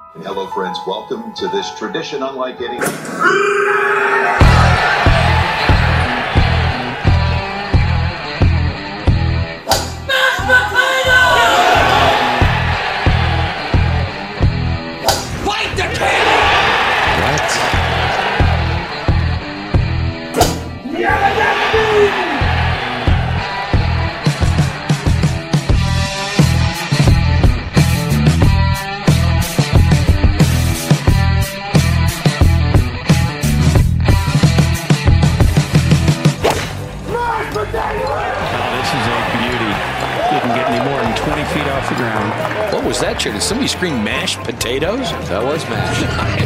Hello, friends. Welcome to this tradition unlike any. Fight the king! What? What was that, Chair? Did somebody scream mashed potatoes? That was mashed.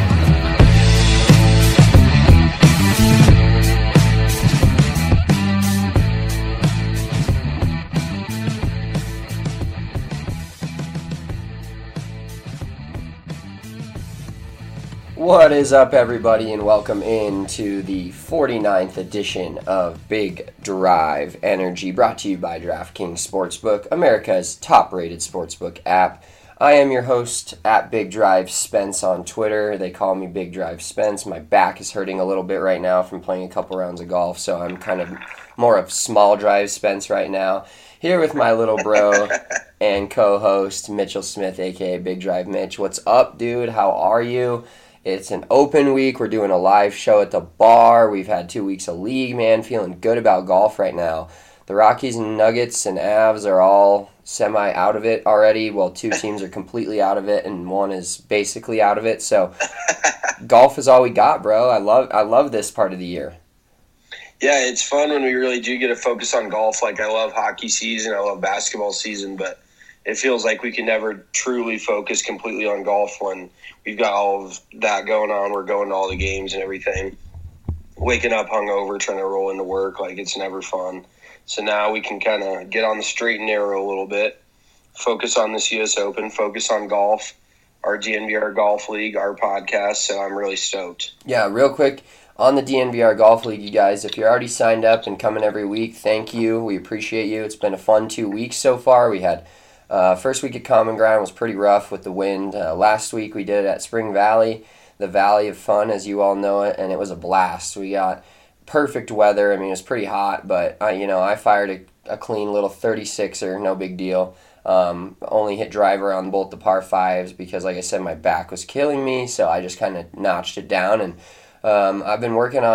What is up, everybody, and welcome into the 49th edition of Big Drive Energy, brought to you by DraftKings Sportsbook, America's top-rated sportsbook app. I am your host at Big Drive Spence on Twitter. They call me Big Drive Spence. My back is hurting a little bit right now from playing a couple rounds of golf, so I'm kind of more of Small Drive Spence right now. Here with my little bro and co-host, Mitchell Smith, a.k.a. Big Drive Mitch. What's up, dude? How are you? It's an open week. We're doing a live show at the bar. We've had 2 weeks of league, man. Feeling good about golf right now. The Rockies and Nuggets and Avs are all semi out of it already. Well, two teams are completely out of it, and one is basically out of it. So, golf is all we got, bro. I love this part of the year. Yeah, it's fun when we really do get to focus on golf. Like, I love hockey season, I love basketball season, but it feels like we can never truly focus completely on golf when we've got all of that going on. We're going to all the games and everything. Waking up hungover, trying to roll into work, like, it's never fun. So now we can kind of get on the straight and narrow a little bit, focus on this U.S. Open, focus on golf, our DNVR Golf League, our podcast. So I'm really stoked. Yeah, real quick, on the DNVR Golf League, you guys, if you're already signed up and coming every week, thank you. We appreciate you. It's been a fun 2 weeks so far. We had first week at Common Ground was pretty rough with the wind. Last week we did it at Spring Valley, the Valley of Fun, as you all know it, and it was a blast. We got perfect weather. I mean, it was pretty hot, but I fired a clean little 36er, no big deal. Only hit driver on both the par fives because, like I said, my back was killing me, so I just kind of notched it down. And I've been working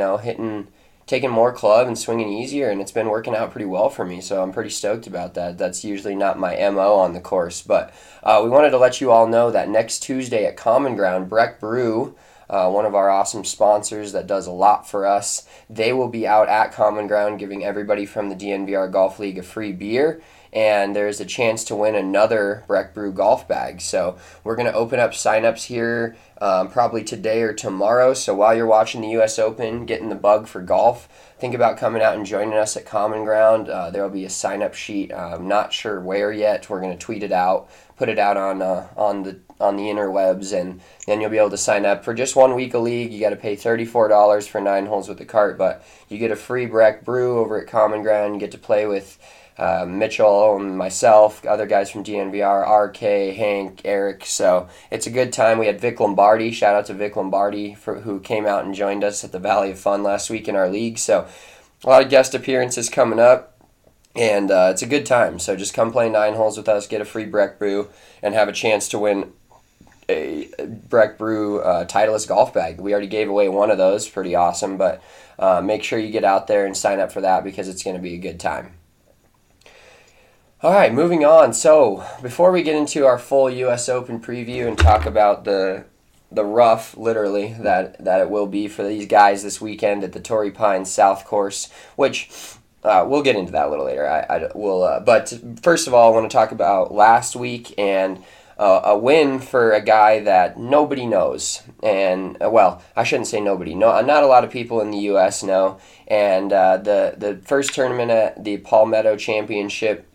on taking more club and swinging easier, and it's been working out pretty well for me, so I'm pretty stoked about that. That's usually not my MO on the course, but we wanted to let you all know that next Tuesday at Common Ground, Breck Brew, one of our awesome sponsors that does a lot for us, they will be out at Common Ground giving everybody from the DNVR Golf League a free beer, and there's a chance to win another Breck Brew golf bag. So we're going to open up signups here probably today or tomorrow. So while you're watching the U.S. Open, getting the bug for golf, think about coming out and joining us at Common Ground. There will be a sign-up sheet. I'm not sure where yet. We're going to tweet it out, put it out on the interwebs, and then you'll be able to sign up for just 1 week of league. You got to pay $34 for 9 holes with the cart, but you get a free Breck Brew over at Common Ground. You get to play with Mitchell and myself, other guys from DNVR, RK, Hank, Eric. So it's a good time. We had Vic Lombardi. Shout out to Vic Lombardi who came out and joined us at the Valley of Fun last week in our league. So a lot of guest appearances coming up, and it's a good time. So just come play 9 holes with us, get a free Breck Brew, and have a chance to win a Breck Brew Titleist golf bag. We already gave away one of those. Pretty awesome, but make sure you get out there and sign up for that because it's going to be a good time. All right, moving on. So before we get into our full U.S. Open preview and talk about the rough, literally, that it will be for these guys this weekend at the Torrey Pines South Course, which we'll get into that a little later. But first of all, I want to talk about last week and a win for a guy that nobody knows. And, well, I shouldn't say nobody. No, not a lot of people in the U.S. know. And the first tournament at the Palmetto Championship,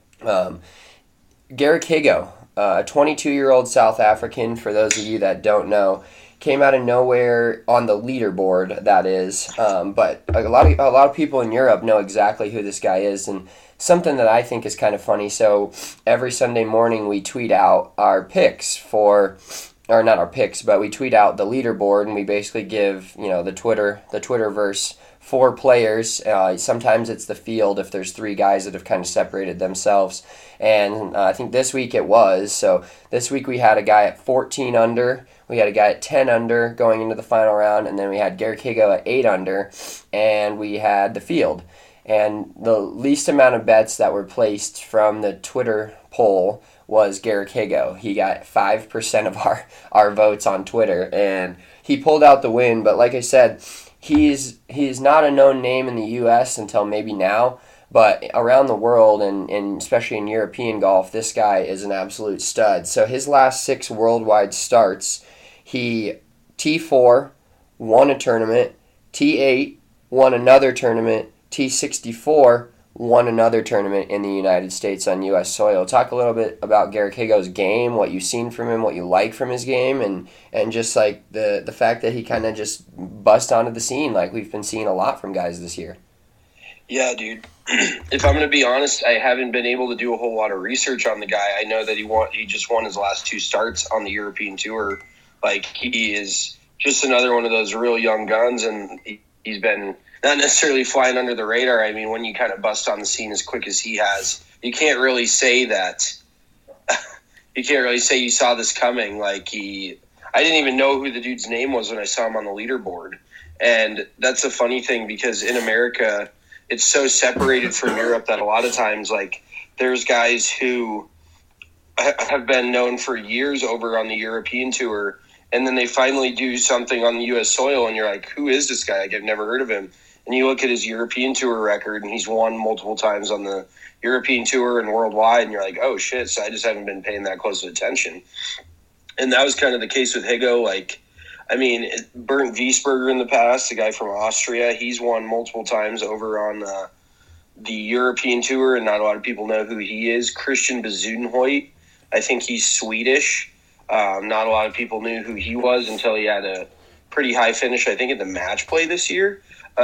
Garrick Higo, a 22-year-old South African, for those of you that don't know, came out of nowhere on the leaderboard, that is. But a lot of people in Europe know exactly who this guy is, and something that I think is kind of funny. So every Sunday morning we tweet out our picks for or not our picks, but we tweet out the leaderboard, and we basically give, the Twitterverse 4 players. Sometimes it's the field if there's 3 guys that have kind of separated themselves. And I think this week it was. So this week we had a guy at 14 under. We had a guy at 10 under going into the final round. And then we had Garrick Higo at 8 under. And we had the field. And the least amount of bets that were placed from the Twitter poll was Garrick Higo. He got 5% of our votes on Twitter. And he pulled out the win. But like I said, he's not a known name in the U.S. until maybe now. But around the world, and especially in European golf, this guy is an absolute stud. So his last 6 worldwide starts, he T4, won a tournament, T8, won another tournament, T64, won another tournament in the United States on U.S. soil. Talk a little bit about Garrick Higo's game, what you've seen from him, what you like from his game, and just like the fact that he kind of just bust onto the scene like we've been seeing a lot from guys this year. Yeah, dude. If I'm going to be honest, I haven't been able to do a whole lot of research on the guy. I know that he just won his last 2 starts on the European Tour. Like, he is just another one of those real young guns, and he's been not necessarily flying under the radar. I mean, when you kind of bust on the scene as quick as he has, you can't really say that. You can't really say you saw this coming. I didn't even know who the dude's name was when I saw him on the leaderboard. And that's a funny thing because in America, it's so separated from Europe that a lot of times, there's guys who have been known for years over on the European Tour, and then they finally do something on the U.S. soil, and you're like, who is this guy? I've never heard of him. And you look at his European Tour record, and he's won multiple times on the European Tour and worldwide, and you're like, oh, shit, so I just haven't been paying that close of attention. And that was kind of the case with Higo. Bernd Wiesberger in the past, the guy from Austria, he's won multiple times over on the European Tour, and not a lot of people know who he is. Christian Bezuidenhout, I think he's Swedish. Not a lot of people knew who he was until he had a pretty high finish, I think, in the match play this year.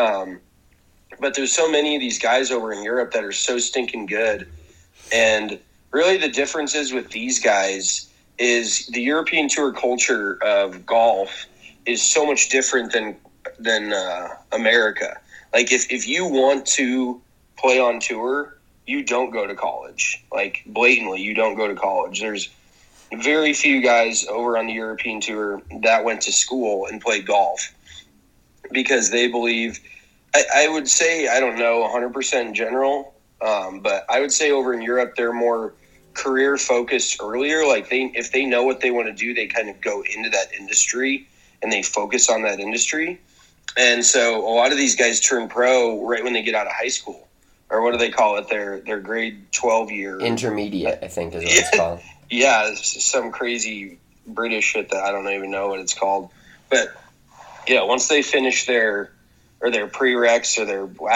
But there's so many of these guys over in Europe that are so stinking good. And really the difference is with these guys is the European Tour culture of golf is so much different than America. If you want to play on tour, you don't go to college. Blatantly, you don't go to college. There's very few guys over on the European Tour that went to school and played golf because they believe, I would say, I don't know 100% in general, but I would say over in Europe, they're more career focused earlier. If they know what they want to do, they kind of go into that industry and they focus on that industry. And so a lot of these guys turn pro right when they get out of high school, or what do they call it? Their grade 12 year intermediate, I think is what it's called. Yeah, some crazy British shit that I don't even know what it's called. But yeah, once they finish their prereqs or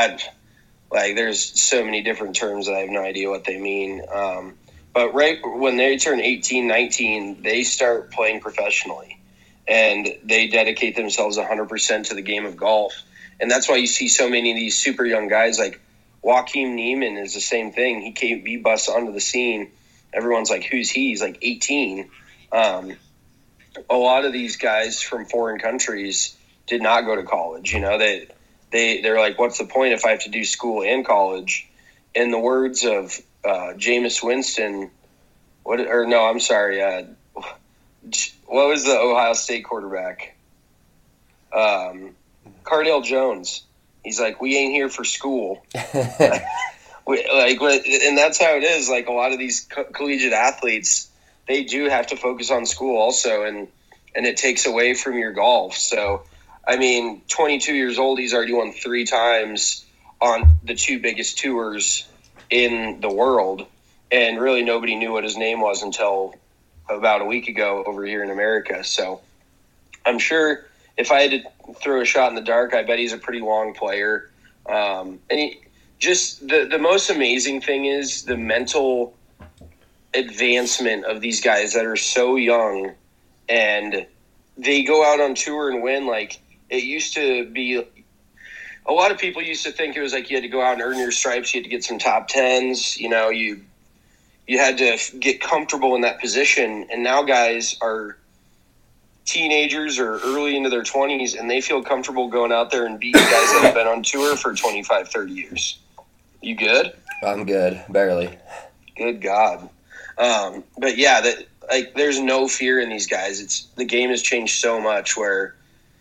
there's so many different terms that I have no idea what they mean. But right when they turn 18, 19, they start playing professionally. And they dedicate themselves 100% to the game of golf. And that's why you see so many of these super young guys. Like Joaquin Niemann is the same thing. He busts onto the scene. Everyone's like, who's he? He's 18. A lot of these guys from foreign countries did not go to college. They're like, what's the point if I have to do school and college? In the words of Jameis Winston, what was the Ohio State quarterback? Cardale Jones. He's like, we ain't here for school. And that's how it is. A lot of these collegiate athletes, they do have to focus on school also, and it takes away from your golf. So, 22 years old, he's already won 3 times on the 2 biggest tours in the world, and really nobody knew what his name was until about a week ago over here in America. So I'm sure if I had to throw a shot in the dark, I bet he's a pretty long player. And the most amazing thing is the mental advancement of these guys that are so young, and they go out on tour and win. It used to be, a lot of people used to think it was you had to go out and earn your stripes. You had to get some top 10s, you had to get comfortable in that position. And now guys are teenagers or early into their 20s, and they feel comfortable going out there and beating guys that have been on tour for 25, 30 years. You good? I'm good, barely. Good God. But yeah, there's no fear in these guys. The game has changed so much where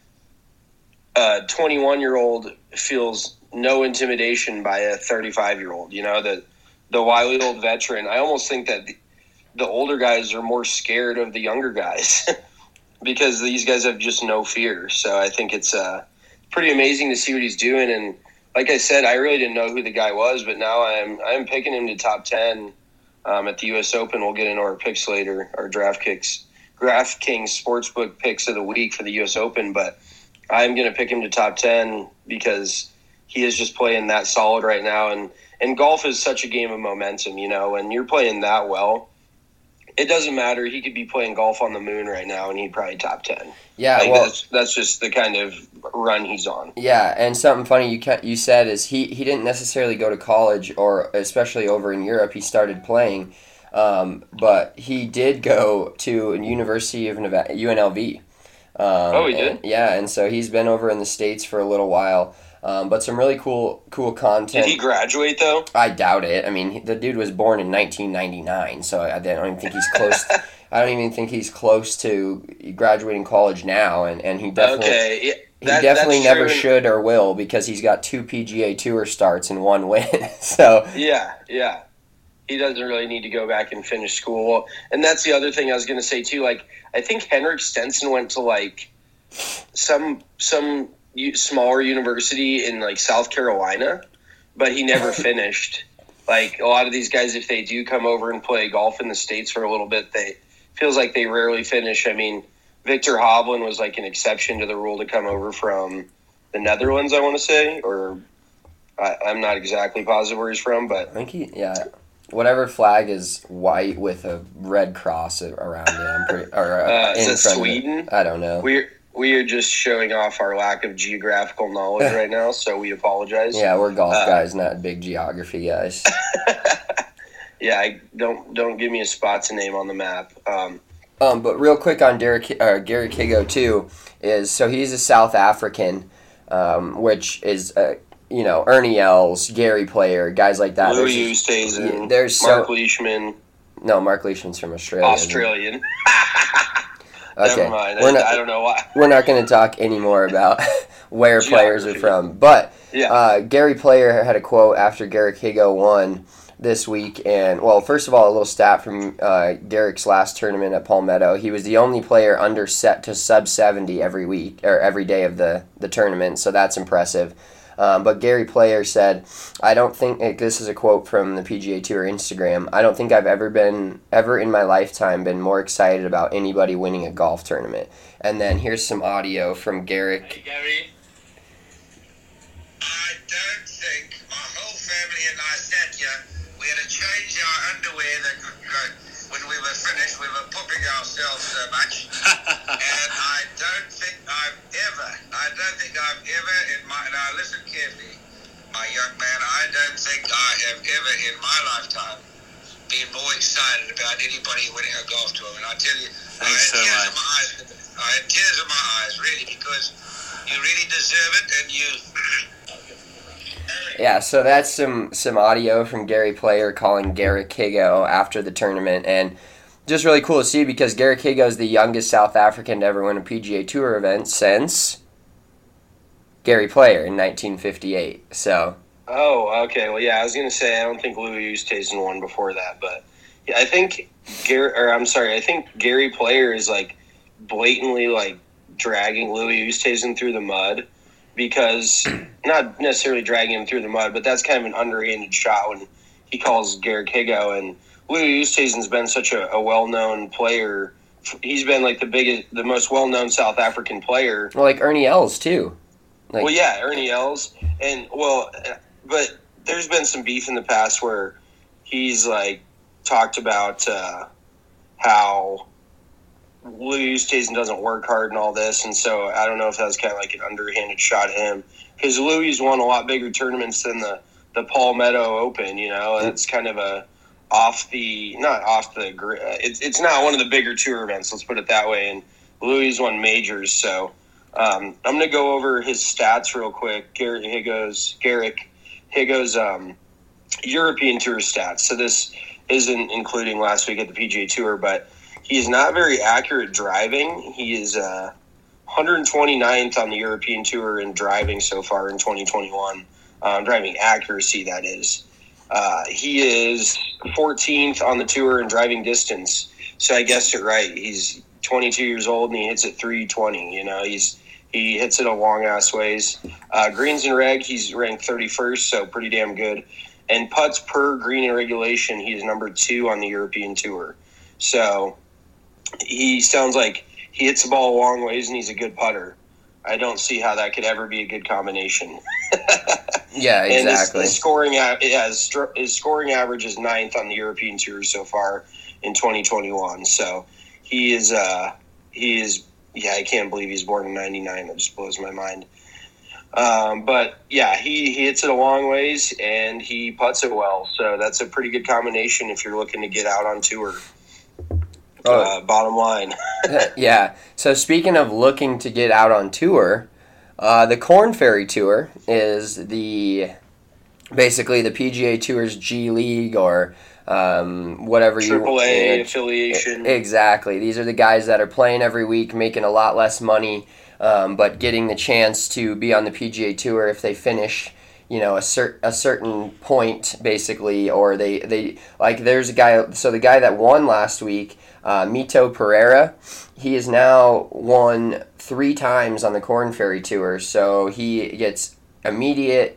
a 21-year-old feels no intimidation by a 35-year-old. The wily old veteran. I almost think that the older guys are more scared of the younger guys because these guys have just no fear. So I think it's pretty amazing to see what he's doing. And like I said, I really didn't know who the guy was, but now I'm picking him to top 10 at the U.S. Open. We'll get into our picks later, our DraftKings Sportsbook picks of the week for the U.S. Open. But I'm going to pick him to top 10 because he is just playing that solid right now. And golf is such a game of momentum, when you're playing that well. It doesn't matter. He could be playing golf on the moon right now, and he'd probably top 10. Yeah, that's just the kind of run he's on. Yeah, and something funny you said is he didn't necessarily go to college, or especially over in Europe. He started playing, but he did go to University of Nevada, UNLV. He did? And so he's been over in the States for a little while. But some really cool content. Did he graduate, though? I doubt it. I mean, the dude was born in 1999, so I don't even think he's close. I don't even think he's close to graduating college now, and he definitely definitely never should or will because he's got 2 PGA Tour starts and 1 win. So yeah, he doesn't really need to go back and finish school. And that's the other thing I was going to say too. Like, I think Henrik Stenson went to like some smaller university in like South Carolina, but he never finished. Like a lot of these guys, if they do come over and play golf in the States for a little bit, feels like they rarely finish. I mean, Victor Hovland was like an exception to the rule to come over from the Netherlands, I want to say, or I'm not exactly positive where he's from, but I think whatever flag is white with a red cross around it. I'm pretty, is it Sweden? I don't know. We are just showing off our lack of geographical knowledge right now, so we apologize. Yeah, we're golf guys, not big geography guys. Yeah, don't give me a spot to name on the map. But real quick on Gary Kigo too is so he's a South African, which is Ernie Els, Gary Player, guys like that. Louis Oosthuizen, Mark Leishman. No, Mark Leishman's from Australia. Australian. Okay. Never mind. I don't know why. We're not going to talk anymore about where players are from. But Gary Player had a quote after Garrick Higo won this week. And, well, first of all, a little stat from Garrick's last tournament at Palmetto. He was the only player under set to sub 70 every week or every day of the tournament. So that's impressive. But Gary Player said, I don't think, this is a quote from the PGA Tour Instagram, I don't think I've ever in my lifetime been more excited about anybody winning a golf tournament. And then here's some audio from Garrick. Hey Gary, I don't think my whole family and I sat here, we had to change our underwear when we were finished, we were pooping ourselves so much. And I don't think I've ever now listen carefully, my young man, I don't think I have ever in my lifetime been more excited about anybody winning a golf tournament. I tell you, I had tears in my eyes, really, because you really deserve it, and you... Yeah, so that's some audio from Gary Player calling Garrick Higo after the tournament, and just really cool to see because Garrick Higo is the youngest South African to ever win a PGA Tour event since Gary Player in 1958. So. Oh, okay. Well, yeah, I was gonna say I don't think Louis Oosthuizen won before that, but yeah, I think Gary Player is like blatantly like dragging Louis Oosthuizen through the mud because not necessarily dragging him through the mud, but that's kind of an underhanded shot when he calls Garrick Higo. And Louis Oosthuizen's been such a well-known player. He's been like the most well-known South African player. Well, like Ernie Els too. Well, yeah, Ernie Els, but there's been some beef in the past where he's like talked about how Louis Oosthuizen doesn't work hard and all this, and so I don't know if that was kind of like an underhanded shot at him because Louis won a lot bigger tournaments than the Palmetto Open. And it's kind of it's not one of the bigger tour events. Let's put it that way. And Louis won majors. So I'm going to go over his stats real quick. Garrick Higgo's European Tour stats. So this isn't including last week at the PGA Tour, but he's not very accurate driving. He is 129th on the European Tour in driving so far in 2021. Driving accuracy, that is. He is 14th on the tour in driving distance. So I guessed it right. He's 22 years old and he hits it 320. You know, he hits it a long ass ways. Greens and reg, he's ranked 31st, so pretty damn good. And putts per green and regulation, he's number 2 on the European Tour. So he sounds like he hits the ball a long ways and he's a good putter. I don't see how that could ever be a good combination. Yeah, exactly. And his scoring average is 9th on the European Tour so far in 2021. So he is I can't believe he's born in 99. That just blows my mind. But yeah, he hits it a long ways and he putts it well. So that's a pretty good combination if you're looking to get out on tour. Bottom line. Yeah. So speaking of looking to get out on tour, the Korn Ferry Tour is basically the PGA Tour's G League or whatever AAA affiliation. Exactly. These are the guys that are playing every week, making a lot less money, but getting the chance to be on the PGA Tour if they finish, you know, a certain point basically, or they like. There's a guy. So the guy that won last week, Mito Pereira, he has now won 3 times on the Korn Ferry Tour. So he gets an immediate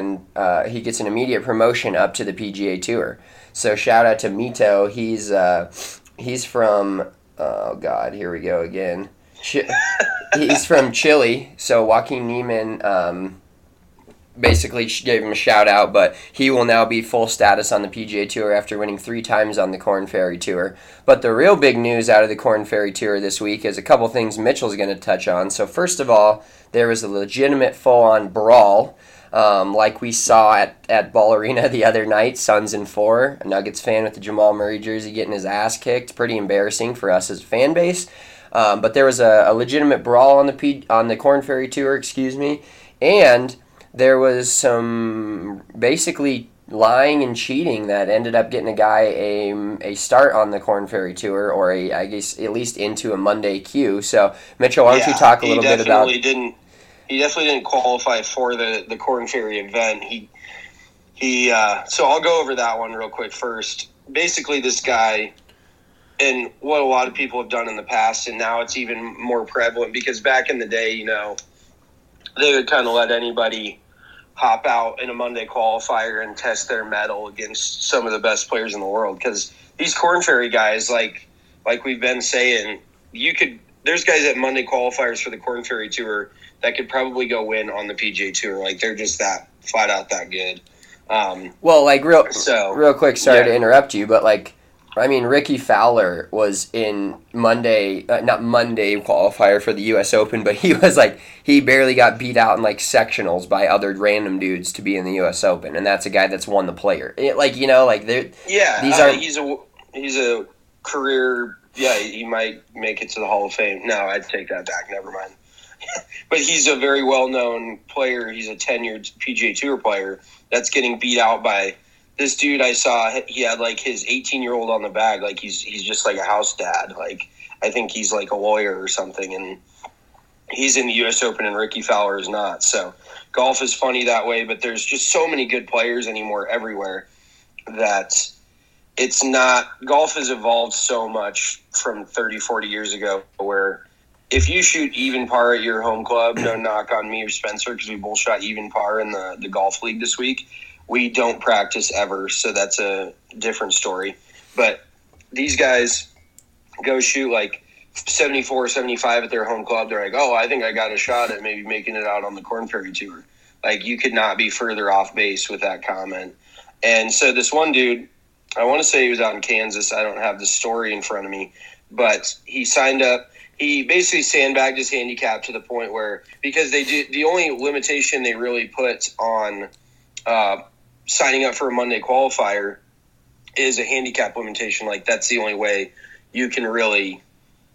promotion up to the PGA Tour. So shout out to Mito. He's from, oh God, here we go again. He's from Chile. So Joaquin Niemann basically gave him a shout out, but he will now be full status on the PGA Tour after winning 3 times on the Korn Ferry Tour. But the real big news out of the Korn Ferry Tour this week is a couple things Mitchell's going to touch on. So first of all, there was a legitimate full-on brawl, like we saw at Ball Arena the other night. Suns in 4, a Nuggets fan with the Jamal Murray jersey getting his ass kicked. Pretty embarrassing for us as a fan base. But there was a legitimate brawl on the Korn Ferry Tour, and there was some basically lying and cheating that ended up getting a guy a start on the Korn Ferry Tour, or I guess at least into a Monday queue. So Mitchell, why don't you talk a little bit about? He definitely didn't qualify for the Korn Ferry event. So I'll go over that one real quick first. Basically, this guy, and what a lot of people have done in the past, and now it's even more prevalent because back in the day, you know, they would kind of let anybody hop out in a Monday qualifier and test their mettle against some of the best players in the world. Because these Korn Ferry guys, like we've been saying, there's guys at Monday qualifiers for the Korn Ferry Tour that could probably go win on the PGA Tour. Like, they're just that flat out that good. Well, like real quick, sorry to interrupt you, but like, I mean, Ricky Fowler was in not Monday qualifier for the U.S. Open, but he barely got beat out in like sectionals by other random dudes to be in the U.S. Open, and that's a guy that's won the Player. He's a career. Yeah, he might make it to the Hall of Fame. No, I'd take that back. Never mind. But he's a very well-known player. He's a tenured PGA Tour player that's getting beat out by this dude I saw. He had like his 18-year-old on the bag. Like he's just like a house dad. Like I think he's like a lawyer or something, and he's in the U.S. Open and Ricky Fowler is not. So golf is funny that way, but there's just so many good players anymore everywhere that it's not – golf has evolved so much from 30, 40 years ago where if you shoot even par at your home club, no knock on me or Spencer because we both shot even par in the golf league this week, we don't practice ever, so that's a different story. But these guys go shoot like 74, 75 at their home club. They're like, oh, I think I got a shot at maybe making it out on the Korn Ferry Tour. Like, you could not be further off base with that comment. And so this one dude, I want to say he was out in Kansas. I don't have the story in front of me. But he signed up. He basically sandbagged his handicap to the point where, because the only limitation they really put on signing up for a Monday qualifier is a handicap limitation. Like, that's the only way you can really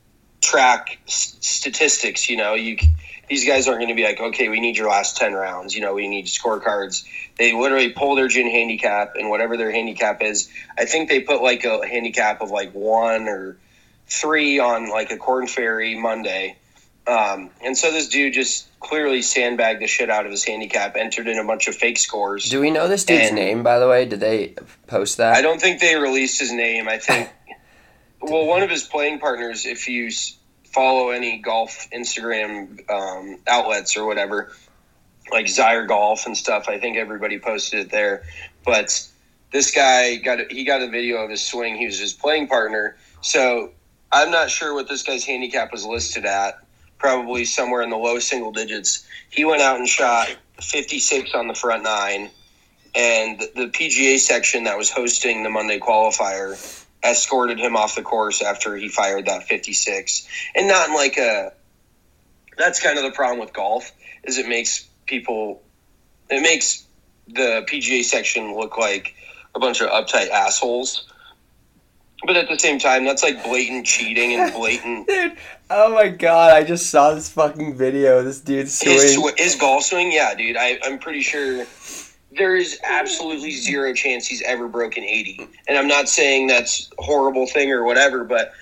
track statistics. These guys aren't going to be like, okay, we need your last 10 rounds. We need scorecards. They literally pull their gin handicap, and whatever their handicap is, I think they put like a handicap of like 1 or 3 on like a Corn Ferry Monday. And so this dude just clearly sandbagged the shit out of his handicap, entered in a bunch of fake scores. Do we know this dude's name, by the way? Did they post that? I don't think they released his name. I think, well, one of his playing partners, if you follow any golf Instagram outlets or whatever, like Zyre Golf and stuff, I think everybody posted it there. But this guy got a video of his swing. He was his playing partner. So I'm not sure what this guy's handicap was listed at. Probably somewhere in the low single digits. He went out and shot 56 on the front 9, and the PGA section that was hosting the Monday qualifier escorted him off the course after he fired that 56. And not in like that's kind of the problem with golf, is it makes the PGA section look like a bunch of uptight assholes. But at the same time, that's like blatant cheating and blatant... Dude, oh my god, I just saw this fucking video. This dude's swing. His golf swing? Yeah, dude, I'm pretty sure there is absolutely zero chance he's ever broken 80. And I'm not saying that's a horrible thing or whatever, but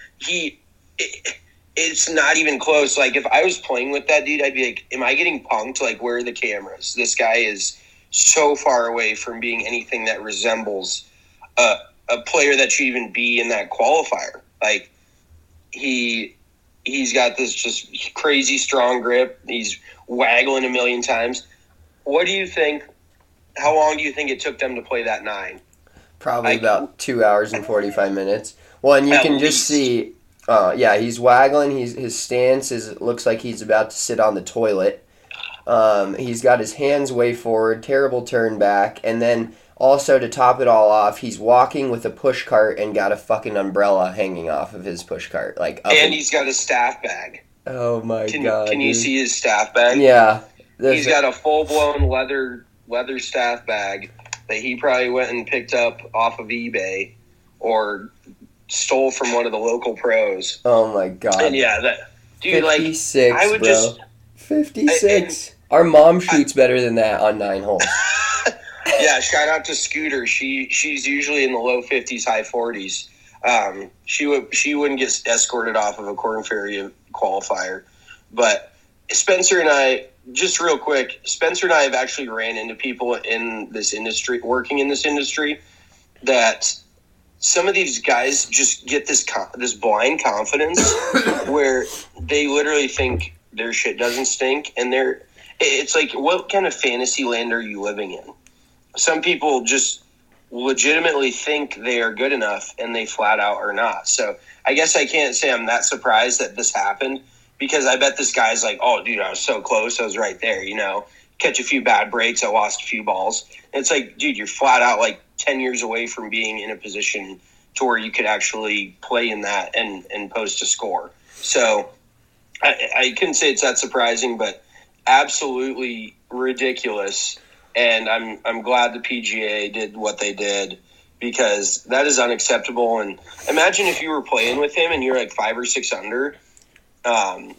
it's not even close. Like, if I was playing with that dude, I'd be like, am I getting punked? Like, where are the cameras? This guy is so far away from being anything that resembles a player that should even be in that qualifier. Like, he's got this just crazy strong grip. He's waggling a million times. What do you think? How long do you think it took them to play that 9? Probably about 2 hours and 45 minutes. Well, and you can just see, he's waggling. His stance looks like he's about to sit on the toilet. He's got his hands way forward, terrible turn back, and then also, to top it all off, he's walking with a push cart and got a fucking umbrella hanging off of his push cart. And he's got a staff bag. Oh my god! Can you see his staff bag? Yeah. He's got a full-blown leather staff bag that he probably went and picked up off of eBay or stole from one of the local pros. Oh my god! And yeah, dude, 56, I would bro. just 56. Our mom shoots better than that on 9 holes. Yeah, shout out to Scooter. She's usually in the low 50s, high 40s. She wouldn't get escorted off of a Corn Ferry qualifier. But Spencer and I, just real quick, Spencer and I have actually ran into people in this industry, working in this industry, that some of these guys just get this blind confidence where they literally think their shit doesn't stink, and it's like, what kind of fantasy land are you living in? Some people just legitimately think they are good enough, and they flat out are not. So I guess I can't say I'm that surprised that this happened, because I bet this guy's like, oh, dude, I was so close. I was right there, catch a few bad breaks. I lost a few balls. And it's like, dude, you're flat out like 10 years away from being in a position to where you could actually play in that and post a score. So I couldn't say it's that surprising, but absolutely ridiculous. And I'm glad the PGA did what they did, because that is unacceptable. And imagine if you were playing with him and you're like 5 or 6 under, or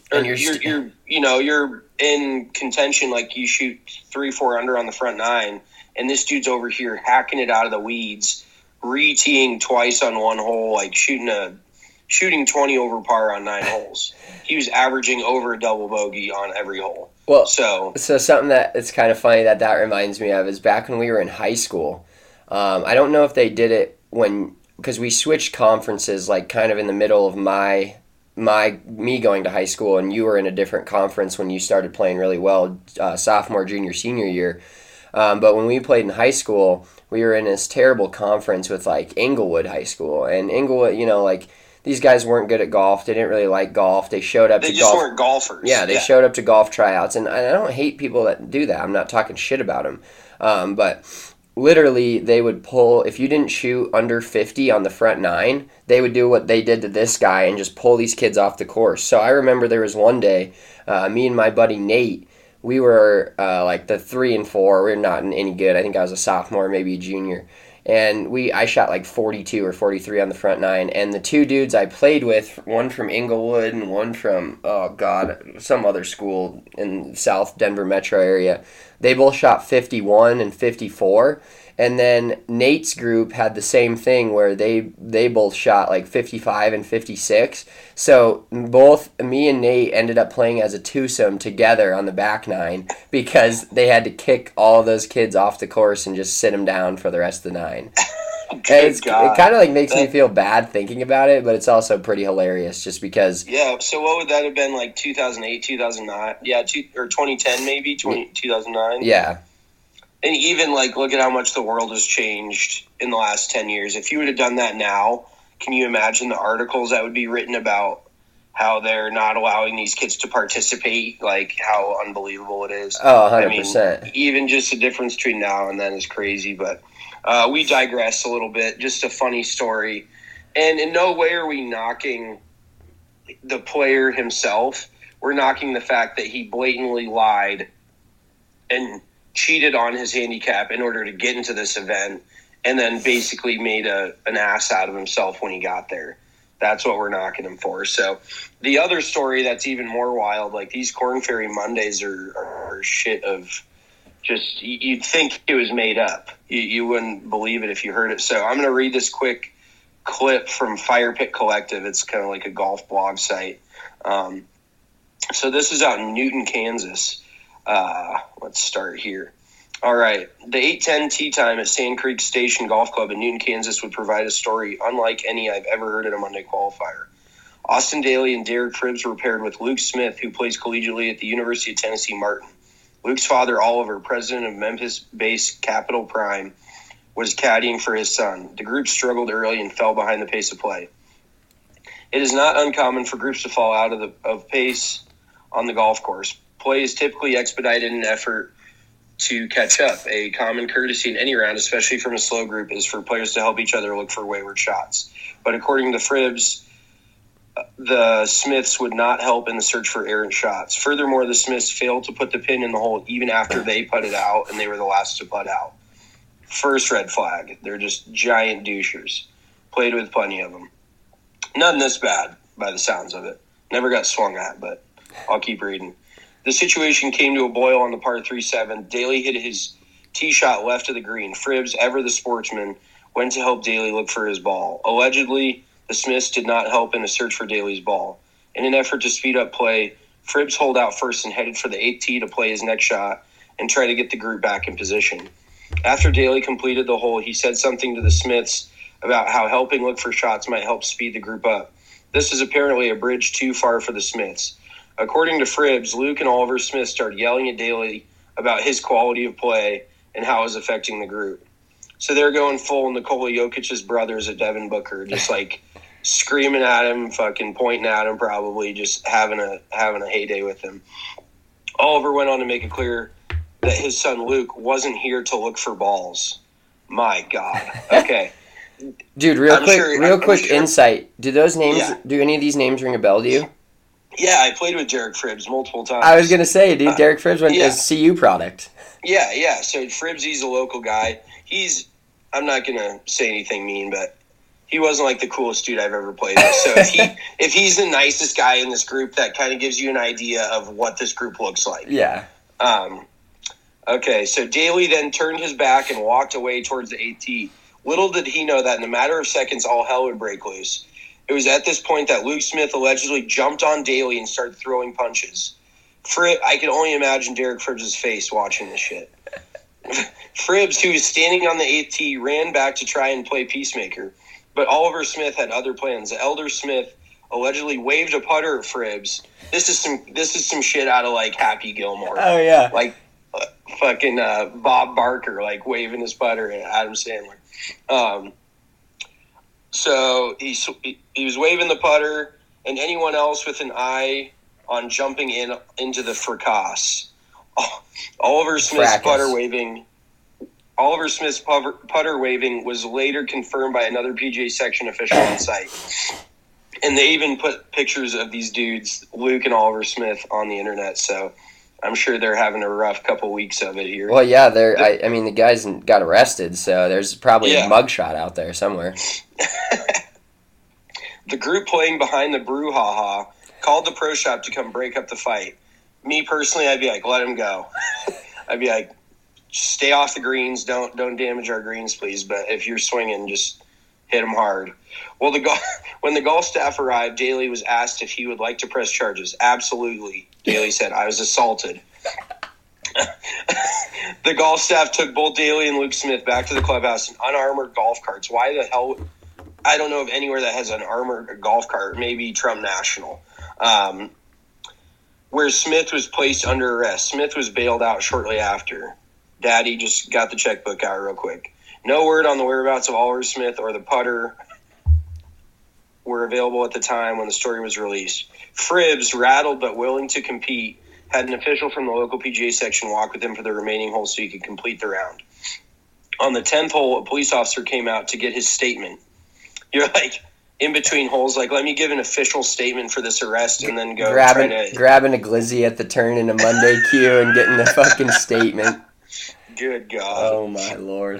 you're in contention, like you shoot 3-4 under on the front 9, and this dude's over here hacking it out of the weeds, re-teeing twice on one hole, like shooting 20 over par on 9 holes. He was averaging over a double bogey on every hole. Well, so something that it's kind of funny that reminds me of is back when we were in high school. I don't know if they did it because we switched conferences, like kind of in the middle of me going to high school, and you were in a different conference when you started playing really well, sophomore, junior, senior year. But when we played in high school, we were in this terrible conference with like Inglewood High School, and Inglewood, like, these guys weren't good at golf. They didn't really like golf. They showed up to golf. They just weren't golfers. Yeah, they showed up to golf tryouts. And I don't hate people that do that. I'm not talking shit about them. But literally, they would pull, if you didn't shoot under 50 on the front 9, they would do what they did to this guy and just pull these kids off the course. So I remember there was one day, me and my buddy Nate, we were like the 3 and 4. We were not any good. I think I was a sophomore, maybe a junior. and I shot like 42 or 43 on the front nine, and the two dudes I played with, one from Inglewood and one from, some other school in South Denver metro area, they both shot 51 and 54. And then Nate's group had the same thing where they both shot like 55 and 56. So both me and Nate ended up playing as a twosome together on the back nine because they had to kick all of those kids off the course and just sit them down for the rest of the nine. It kind of like makes me feel bad thinking about it, but it's also pretty hilarious just because. Yeah, so what would that have been, like 2008, 2009? Yeah, or 2010 maybe, 2009? Yeah. And even, like, look at how much the world has changed in the last 10 years. If you would have done that now, can you imagine the articles that would be written about how they're not allowing these kids to participate, like, how unbelievable it is? Oh, 100%. I mean, even just the difference between now and then is crazy. But we digress a little bit. Just a funny story. And in no way are we knocking the player himself. We're knocking the fact that he blatantly lied and cheated on his handicap in order to get into this event and then basically made an ass out of himself when he got there. That's what we're knocking him for. So the other story that's even more wild, like these Corn Ferry Mondays are shit of just, you'd think it was made up. You wouldn't believe it if you heard it. So I'm going to read this quick clip from Fire Pit Collective. It's kind of like a golf blog site. So this is out in Newton, Kansas. Let's start here. All right. The 8:10 tee time at Sand Creek Station Golf Club in Newton, Kansas would provide a story unlike any I've ever heard at a Monday qualifier. Austin Daly and Derek Fribbs were paired with Luke Smith, who plays collegiately at the University of Tennessee Martin. Luke's father, Oliver, president of Memphis-based Capital Prime, was caddying for his son. The group struggled early and fell behind the pace of play. It is not uncommon for groups to fall out of pace on the golf course. Play is typically expedited in an effort to catch up. A common courtesy in any round, especially from a slow group, is for players to help each other look for wayward shots. But according to Fribbs, the Smiths would not help in the search for errant shots. Furthermore, the Smiths failed to put the pin in the hole even after they putted out, and they were the last to putt out. First red flag. They're just giant douchers. Played with plenty of them. None this bad, by the sounds of it. Never got swung at, but I'll keep reading. The situation came to a boil on the par 3-7. Daly hit his tee shot left of the green. Fribbs, ever the sportsman, went to help Daly look for his ball. Allegedly, the Smiths did not help in a search for Daly's ball. In an effort to speed up play, Fribbs holed out first and headed for the 8th tee to play his next shot and try to get the group back in position. After Daly completed the hole, he said something to the Smiths about how helping look for shots might help speed the group up. This is apparently a bridge too far for the Smiths. According to Fribbs, Luke and Oliver Smith started yelling at Daly about his quality of play and how it was affecting the group. So they're going full Nikola Jokic's brothers at Devin Booker, just like screaming at him, fucking pointing at him, probably just having a heyday with him. Oliver went on to make it clear that his son Luke wasn't here to look for balls. My God. Okay. Dude, real quick insight. Do those names? Yeah. Do any of these names ring a bell to you? Yeah, I played with Derek Fribbs multiple times. I was going to say, dude, Derek Fribbs went as CU product. Yeah. So Fribbs, he's a local guy. I'm not going to say anything mean, but he wasn't like the coolest dude I've ever played with. So if he's the nicest guy in this group, that kind of gives you an idea of what this group looks like. Yeah. Okay, so Daly then turned his back and walked away towards the 8th tee. Little did he know that in a matter of seconds, all hell would break loose. It was at this point that Luke Smith allegedly jumped on Daly and started throwing punches. I can only imagine Derek Fribbs' face watching this shit. Fribbs, who was standing on the 8th tee, ran back to try and play peacemaker. But Oliver Smith had other plans. The elder Smith allegedly waved a putter at Fribbs. This is some shit out of, like, Happy Gilmore. Oh, yeah. Like, fucking Bob Barker, like, waving his putter at Adam Sandler. So he was waving the putter, and anyone else with an eye on jumping into the fracasse. Oliver Smith's putter waving was later confirmed by another PGA section official on site. And they even put pictures of these dudes, Luke and Oliver Smith, on the internet. So I'm sure they're having a rough couple weeks of it here. Well, yeah, I mean, the guys got arrested, so there's probably a mugshot out there somewhere. The group playing behind the brouhaha called the pro shop to come break up the fight. Me personally, I'd be like, let him go. I'd be like, stay off the greens. Don't damage our greens, please. But if you're swinging, just hit them hard. Well, when the golf staff arrived, Daly was asked if he would like to press charges. Absolutely, Daly said. I was assaulted. The golf staff took both Daly and Luke Smith back to the clubhouse in unarmored golf carts. Why the hell? I don't know of anywhere that has an armored golf cart. Maybe Trump National. Where Smith was placed under arrest. Smith was bailed out shortly after. Daddy just got the checkbook out real quick. No word on the whereabouts of Oliver Smith or the putter were available at the time when the story was released. Fribbs, rattled but willing to compete, had an official from the local PGA section walk with him for the remaining holes so he could complete the round. On the 10th hole, a police officer came out to get his statement. You're like, in between holes, like, let me give an official statement for this arrest and then go grabbing a glizzy at the turn in a Monday queue and getting the fucking statement. Good God. Oh, my Lord.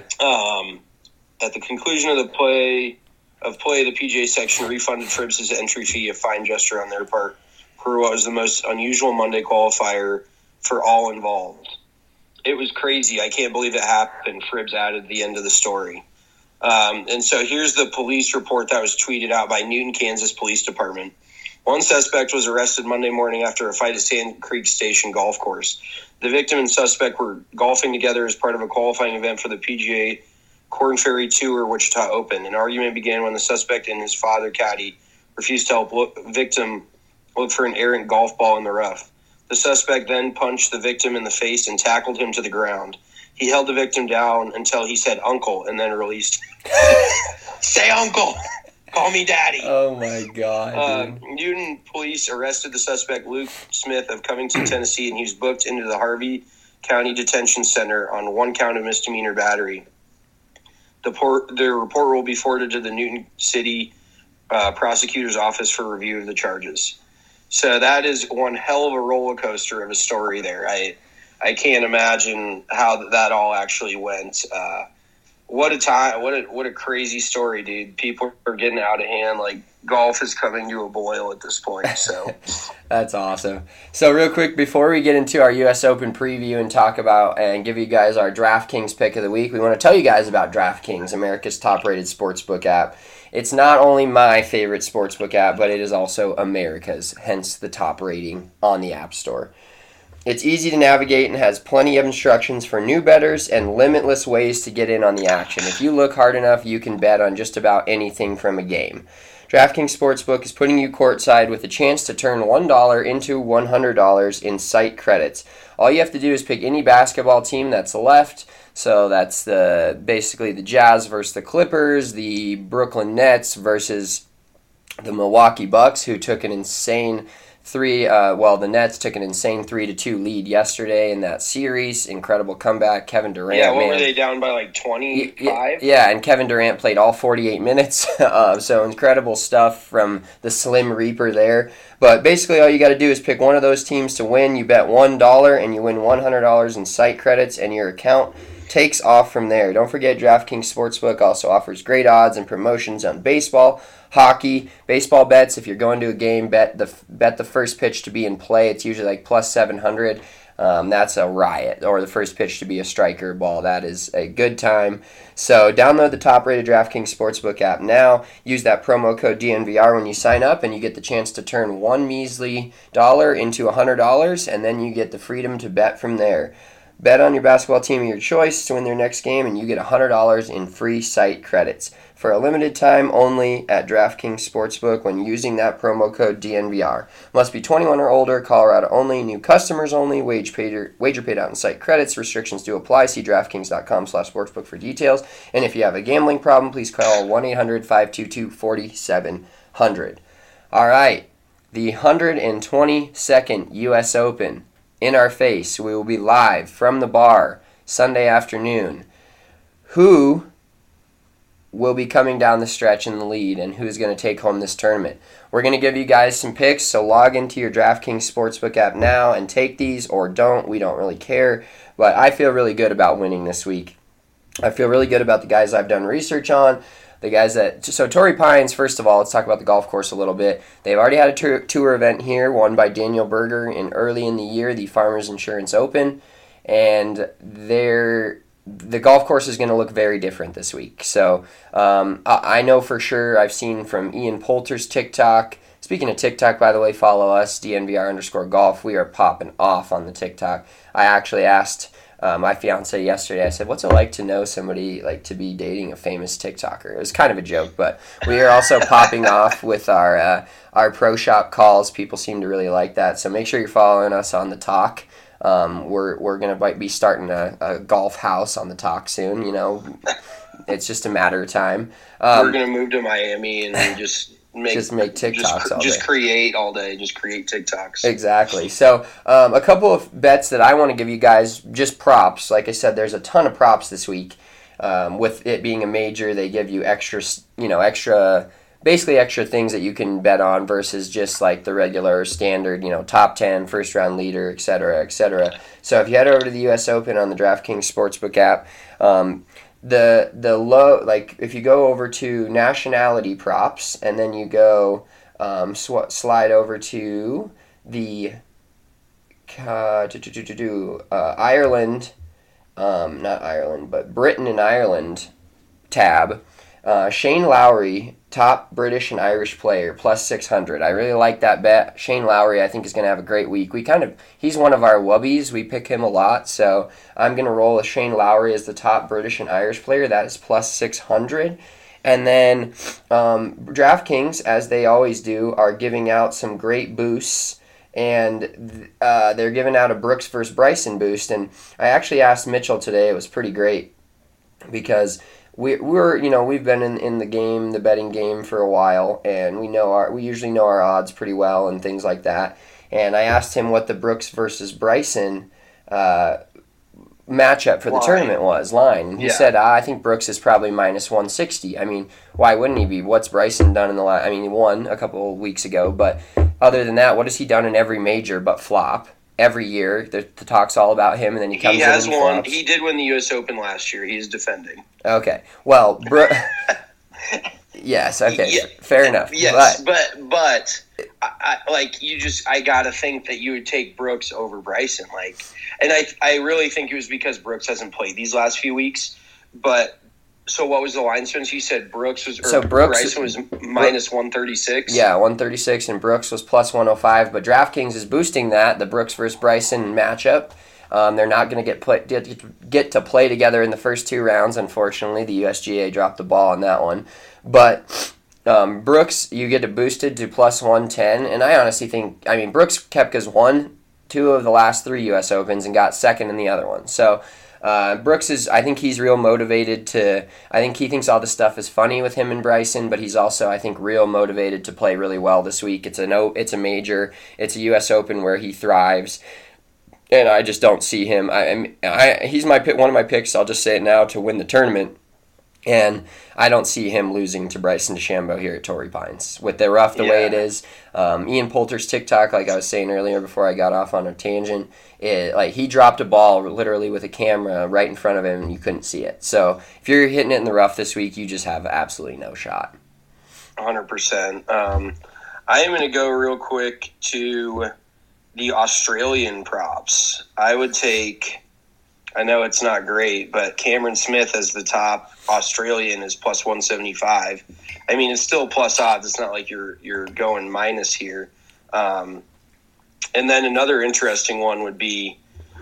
At the conclusion of play, the PGA section refunded Fribbs' entry fee, a fine gesture on their part, for what was the most unusual Monday qualifier for all involved. It was crazy. I can't believe it happened. Fribbs added the end of the story. And so here's the police report that was tweeted out by Newton, Kansas Police Department. One suspect was arrested Monday morning after a fight at Sand Creek Station Golf Course. The victim and suspect were golfing together as part of a qualifying event for the PGA Corn Ferry Tour Wichita Open. An argument began when the suspect and his father, caddy, refused to help victim look for an errant golf ball in the rough. The suspect then punched the victim in the face and tackled him to the ground. He held the victim down until he said uncle and then released him. Say uncle! Call me daddy. Oh, my God. Newton police arrested the suspect, Luke Smith, of Covington, Tennessee, and he was booked into the Harvey County Detention Center on one count of misdemeanor battery. The report will be forwarded to the Newton City prosecutor's office for review of the charges. So that is one hell of a roller coaster of a story there. I can't imagine how that all actually went. What a time! What a crazy story, dude. People are getting out of hand. Like, golf is coming to a boil at this point. So that's awesome. So real quick, before we get into our U.S. Open preview and talk about and give you guys our DraftKings pick of the week, we want to tell you guys about DraftKings, America's top-rated sportsbook app. It's not only my favorite sportsbook app, but it is also America's, hence the top rating on the App Store. It's easy to navigate and has plenty of instructions for new bettors and limitless ways to get in on the action. If you look hard enough, you can bet on just about anything from a game. DraftKings Sportsbook is putting you courtside with a chance to turn $1 into $100 in site credits. All you have to do is pick any basketball team that's left. So that's basically the Jazz versus the Clippers, the Brooklyn Nets versus the Milwaukee Bucks, who took an insane the Nets took an insane 3-2 lead yesterday in that series. Incredible comeback. Kevin Durant. Yeah, were they down by like 25? Yeah, and Kevin Durant played all 48 minutes. So incredible stuff from the Slim Reaper there. But basically all you got to do is pick one of those teams to win. You bet $1 and you win $100 in site credits, and your account takes off from there. Don't forget, DraftKings Sportsbook also offers great odds and promotions on baseball, hockey, baseball bets. If you're going to a game, bet the first pitch to be in play. It's usually like plus 700. That's a riot. Or the first pitch to be a striker ball. That is a good time. So download the top-rated DraftKings Sportsbook app now. Use that promo code DNVR when you sign up, and you get the chance to turn one measly dollar into $100, and then you get the freedom to bet from there. Bet on your basketball team of your choice to win their next game, and you get $100 in free site credits for a limited time only at DraftKings Sportsbook when using that promo code DNVR. Must be 21 or older, Colorado only, new customers only, wager paid out in site credits. Restrictions do apply. See DraftKings.com/sportsbook for details. And if you have a gambling problem, please call 1-800-522-4700. All right, the 122nd U.S. Open. In our face. We will be live from the bar Sunday afternoon. Who will be coming down the stretch in the lead and who's going to take home this tournament. We're going to give you guys some picks, so log into your DraftKings Sportsbook app now and take these, or don't. We don't really care, but I feel really good about winning this week. I feel really good about the guys I've done research on. The guys so Torrey Pines, first of all, let's talk about the golf course a little bit. They've already had a tour event here, won by Daniel Berger early in the year, the Farmers Insurance Open, and the golf course is going to look very different this week. So I know for sure, I've seen from Ian Poulter's TikTok. Speaking of TikTok, by the way, follow us, DNVR_golf. We are popping off on the TikTok. I actually asked my fiance yesterday, I said, what's it like to know somebody, like to be dating a famous TikToker? It was kind of a joke, but we are also popping off with our Pro Shop calls. People seem to really like that, so make sure you're following us on the Talk. We're going to be starting a golf house on the Talk soon, It's just a matter of time. We're going to move to Miami and just make TikToks all day. Just create all day. Just create TikToks. Exactly. So a couple of bets that I want to give you guys, just props. Like I said, there's a ton of props this week. With it being a major, they give you extra things that you can bet on versus just like the regular standard, top 10, first round leader, et cetera, et cetera. So if you head over to the U.S. Open on the DraftKings Sportsbook app, the low, like if you go over to nationality props and then you go slide over to the Ireland, not Ireland, but Britain and Ireland tab, Shane Lowry, top British and Irish player, plus 600. I really like that bet. Shane Lowry, I think, is going to have a great week. He's one of our wubbies. We pick him a lot, so I'm going to roll a Shane Lowry as the top British and Irish player. That is plus 600. And then DraftKings, as they always do, are giving out some great boosts, and they're giving out a Brooks versus Bryson boost. And I actually asked Mitchell today. It was pretty great because we've been in the game, the betting game, for a while, and we usually know our odds pretty well and things like that. And I asked him what the Brooks versus Bryson matchup for the tournament was, line. And he said, I think Brooks is probably minus 160. I mean, why wouldn't he be? What's Bryson done in the last? I mean, he won a couple of weeks ago, but other than that, what has he done in every major but flop? Every year, the talk's all about him, and then he comes in and he flops. He did win the U.S. Open last year. He's defending. Okay. Well, yes. Okay. Yeah. Fair enough. Yes, but I gotta think that you would take Brooks over Bryson. And I really think it was because Brooks hasn't played these last few weeks. But so what was the line, Spence? You said Bryson was minus 136? Yeah, 136, and Brooks was plus 105. But DraftKings is boosting that, the Brooks versus Bryson matchup. They're not going to get to play together in the first two rounds, unfortunately. The USGA dropped the ball on that one. But Brooks, you get it boosted to plus 110. And I honestly think, Brooks Koepka's won 2 of the last 3 U.S. Opens and got second in the other one. So Brooks I think he's real motivated I think he thinks all this stuff is funny with him and Bryson, but he's also, I think, real motivated to play really well this week. It's a major. It's a U.S. Open where he thrives. And I just don't see him. He's one of my picks, I'll just say it now, to win the tournament. And I don't see him losing to Bryson DeChambeau here at Torrey Pines. With the rough the way it is, Ian Poulter's TikTok, like I was saying earlier before I got off on a tangent, he dropped a ball literally with a camera right in front of him and you couldn't see it. So if you're hitting it in the rough this week, you just have absolutely no shot. 100%. I am going to go real quick to the Australian props. I would take, I know it's not great, but Cameron Smith as the top Australian is plus 175. It's still plus odds. It's not like you're going minus here. And then another interesting one would be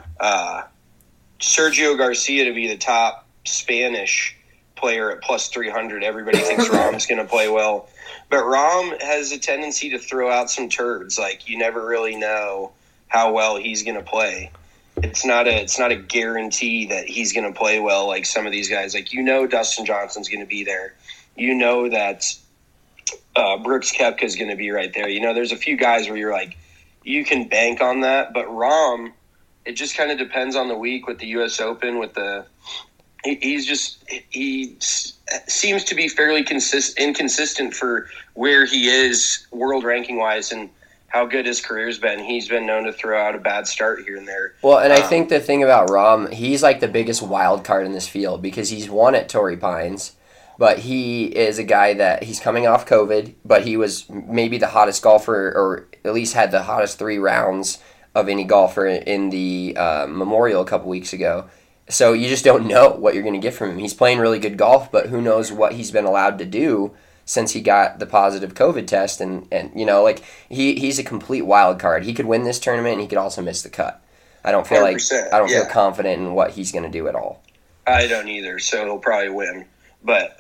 Sergio Garcia to be the top Spanish player at plus 300. Everybody thinks Rahm's going to play well. But Rahm has a tendency to throw out some turds. You never really know how well he's going to play. It's not a guarantee that he's going to play well like some of these guys. Dustin Johnson's going to be there. That Brooks Koepka is going to be right there. There's a few guys where you're you can bank on that. But Rahm, it just kind of depends on the week with the U.S. Open, with the he seems to be fairly inconsistent for where he is world ranking wise and how good his career's been. He's been known to throw out a bad start here and there. Well, and I think the thing about Rahm, he's like the biggest wild card in this field because he's won at Torrey Pines, but he is a guy that he's coming off COVID, but he was maybe the hottest golfer, or at least had the hottest 3 rounds of any golfer in the Memorial a couple weeks ago. So you just don't know what you're going to get from him. He's playing really good golf, but who knows what he's been allowed to do since he got the positive COVID test. And you know, like he's a complete wild card. He could win this tournament, and he could also miss the cut. I don't feel feel confident in what he's going to do at all. I don't either, so he'll probably win. But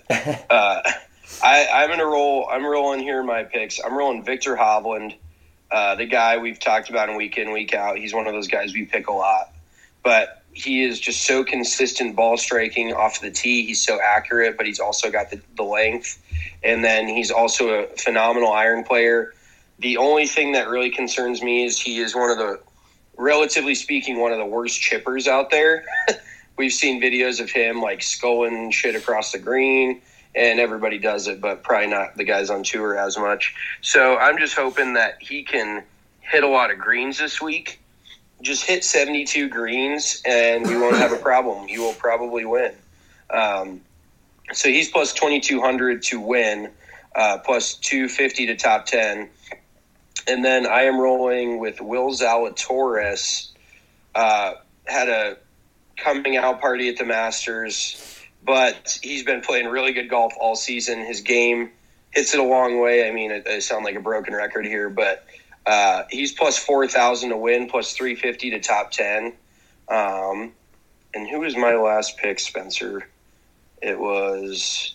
I'm going to roll. I'm rolling here in my picks. I'm rolling Victor Hovland, the guy we've talked about in week in, week out. He's one of those guys we pick a lot. But he is just so consistent ball striking off the tee. He's so accurate, but he's also got the length. And then he's also a phenomenal iron player. The only thing that really concerns me is he is relatively speaking, one of the worst chippers out there. We've seen videos of him like sculling shit across the green, and everybody does it, but probably not the guys on tour as much. So I'm just hoping that he can hit a lot of greens this week. Just hit 72 greens, and we won't have a problem. You will probably win. So he's plus 2,200 to win, plus 250 to top 10. And then I am rolling with Will Zalatoris. Had a coming out party at the Masters, but he's been playing really good golf all season. His game hits it a long way. I mean, I sound like a broken record here, but he's plus 4,000 to win, plus 350 to top 10. And who was my last pick, Spencer? It was...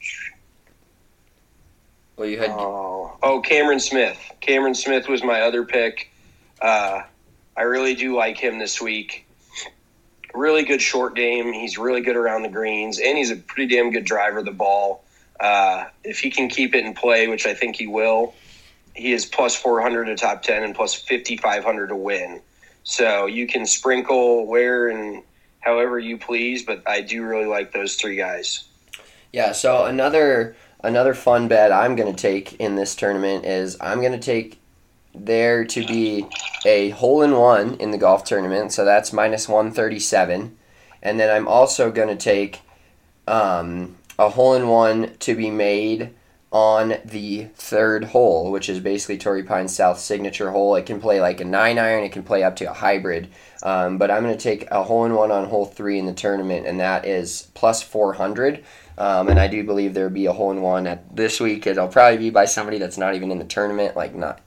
Well, you had... Cameron Smith. Cameron Smith was my other pick. I really do like him this week. Really good short game. He's really good around the greens, and he's a pretty damn good driver of the ball. If he can keep it in play, which I think he will, he is plus 400 to top 10 and plus 5,500 to win. So you can sprinkle where and however you please, but I do really like those 3 guys. Yeah, so another fun bet I'm going to take in this tournament is I'm going to take there to be a hole-in-one in the golf tournament, so that's minus 137. And then I'm also going to take a hole-in-one to be made on the 3rd hole, which is basically Torrey Pines South signature hole. It can play like a 9-iron, it can play up to a hybrid. But I'm going to take a hole-in-one on hole 3 in the tournament, and that is plus 400. And I do believe there will be a hole-in-one at this week. It'll probably be by somebody that's not even in the tournament, like not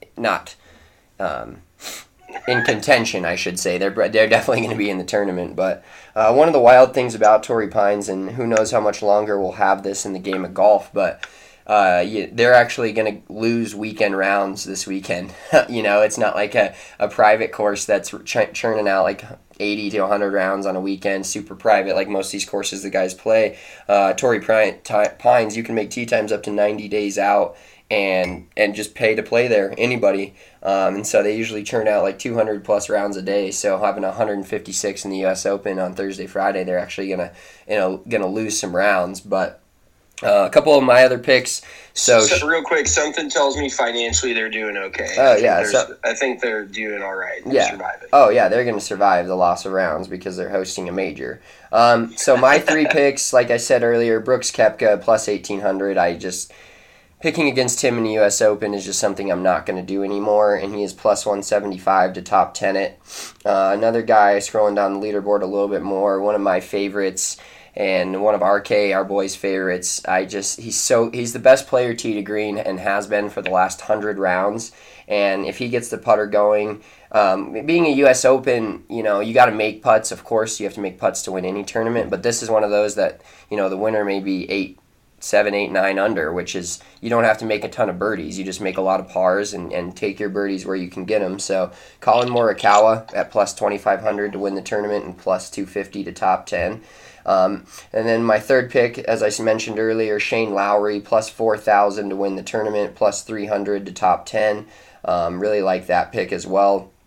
in contention, I should say. They're definitely going to be in the tournament. But one of the wild things about Torrey Pines, and who knows how much longer we'll have this in the game of golf, but they're actually going to lose weekend rounds this weekend. You know, it's not like a private course that's churning out like 80 to 100 rounds on a weekend, super private, like most of these courses the guys play. Torrey Pines, you can make tee times up to 90 days out and just pay to play there, anybody. And so they usually churn out like 200 plus rounds a day. So having 156 in the U.S. Open on Thursday, Friday, they're actually gonna lose some rounds. But a couple of my other picks. So real quick, something tells me financially they're doing okay. Oh yeah, I think they're doing all right. Yeah. Surviving. Oh yeah, they're going to survive the loss of rounds because they're hosting a major. So my 3 picks, like I said earlier, Brooks Koepka plus 1,800. Picking against him in the U.S. Open is just something I'm not going to do anymore, and he is plus 175 to top 10 it. Another guy, scrolling down the leaderboard a little bit more, one of my favorites, and one of our boys' favorites. He's the best player tee to green and has been for the last 100 rounds. And if he gets the putter going, being a U.S. Open, you know, you got to make putts. Of course, you have to make putts to win any tournament. But this is one of those that, you know, the winner may be 7, 8, 9 under, which is you don't have to make a ton of birdies. You just make a lot of pars and take your birdies where you can get them. So Colin Morikawa at plus 2,500 to win the tournament and plus 250 to top 10. And then my 3rd pick, as I mentioned earlier, Shane Lowry, plus 4,000 to win the tournament, plus 300 to top 10. Really like that pick as well.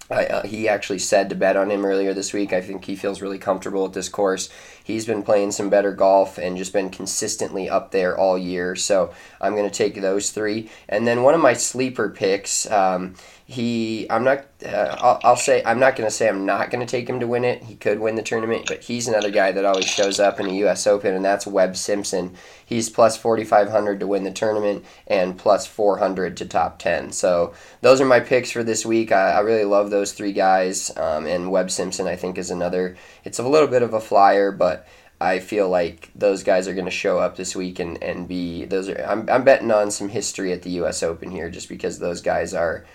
He actually said to bet on him earlier this week. I think he feels really comfortable at this course. He's been playing some better golf and just been consistently up there all year. So I'm going to take those three. And then one of my sleeper picks, I'm not going to say I'm not going to take him to win it. He could win the tournament, but he's another guy that always shows up in the U.S. Open, and that's Webb Simpson. He's plus 4,500 to win the tournament and plus 400 to top 10. So those are my picks for this week. I really love those three guys, and Webb Simpson I think is another. It's a little bit of a flyer, but I feel like those guys are going to show up this week and be those are. I'm betting on some history at the U.S. Open here just because those guys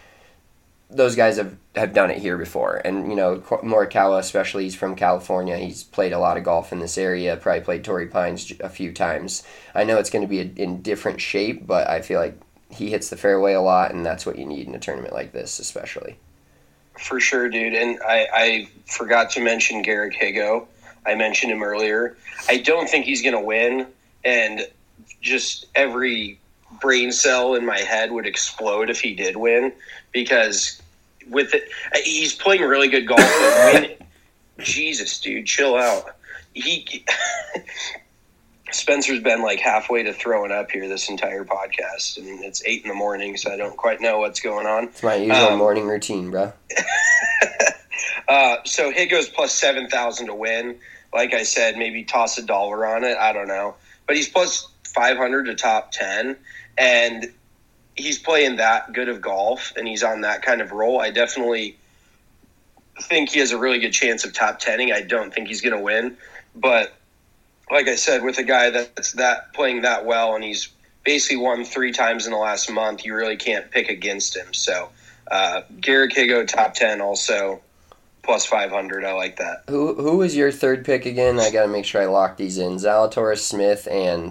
have done it here before. And, Morikawa especially, he's from California. He's played a lot of golf in this area, probably played Torrey Pines a few times. I know it's going to be in different shape, but I feel like he hits the fairway a lot, and that's what you need in a tournament like this especially. For sure, dude. And I forgot to mention Garrick Higo. I mentioned him earlier. I don't think he's going to win, and just every brain cell in my head would explode if he did win, because with it, he's playing really good golf. But Jesus, dude, chill out. Spencer's been like halfway to throwing up here this entire podcast, and it's 8 a.m, so I don't quite know what's going on. It's my usual morning routine, bro. So Higo's plus 7,000 to win. Like I said, maybe toss $1 on it. I don't know, but he's plus 500 to top 10, and he's playing that good of golf, and he's on that kind of roll. I definitely think he has a really good chance of top 10ing. I don't think he's going to win, but like I said, with a guy that's playing that well, and he's basically won 3 times in the last month, you really can't pick against him. So Garrick Higo, top 10, also plus 500. I like that. Who was your third pick again? I got to make sure I lock these in. Zalatoris, Smith, and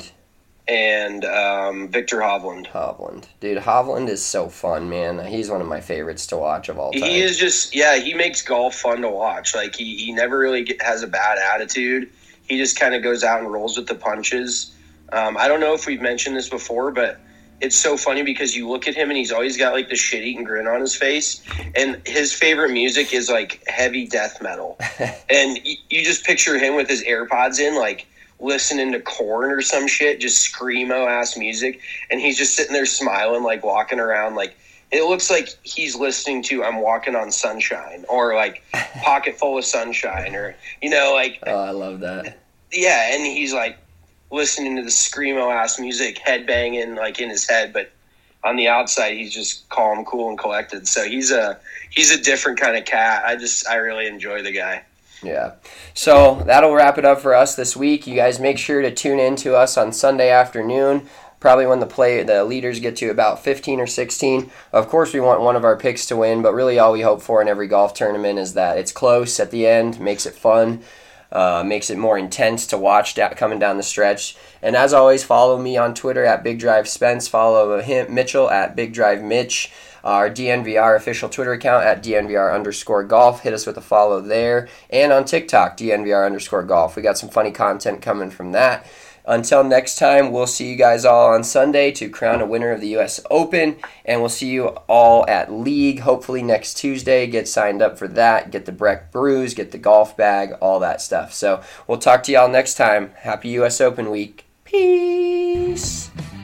Victor Hovland. Hovland. Dude, Hovland is so fun, man. He's one of my favorites to watch of all time. He is just, he makes golf fun to watch. Like, he never really has a bad attitude. He just kind of goes out and rolls with the punches. I don't know if we've mentioned this before, but it's so funny because you look at him and he's always got like the shit-eating grin on his face, and his favorite music is like heavy death metal. And you just picture him with his AirPods in, like listening to Korn or some shit, just screamo-ass music, and he's just sitting there smiling, like walking around. Like, it looks like he's listening to I'm Walking on Sunshine, or like Pocket Full of Sunshine, or, like... Oh, I love that. Yeah, and he's like listening to the screamo-ass music, headbanging like in his head, but on the outside he's just calm, cool, and collected. So he's a different kind of cat. I really enjoy the guy. Yeah. So that'll wrap it up for us this week. You guys make sure to tune in to us on Sunday afternoon, probably when the leaders get to about 15 or 16. Of course, we want one of our picks to win, but really all we hope for in every golf tournament is that it's close at the end, makes it fun. Makes it more intense to watch coming down the stretch. And as always, follow me on Twitter at BigDriveSpence. Follow Mitchell at BigDriveMitch. Our DNVR official Twitter account at DNVR_golf. Hit us with a follow there. And on TikTok, DNVR_golf. We got some funny content coming from that. Until next time, we'll see you guys all on Sunday to crown a winner of the U.S. Open, and we'll see you all at League, hopefully next Tuesday. Get signed up for that, get the Breck Brews, get the golf bag, all that stuff. So we'll talk to y'all next time. Happy U.S. Open week. Peace.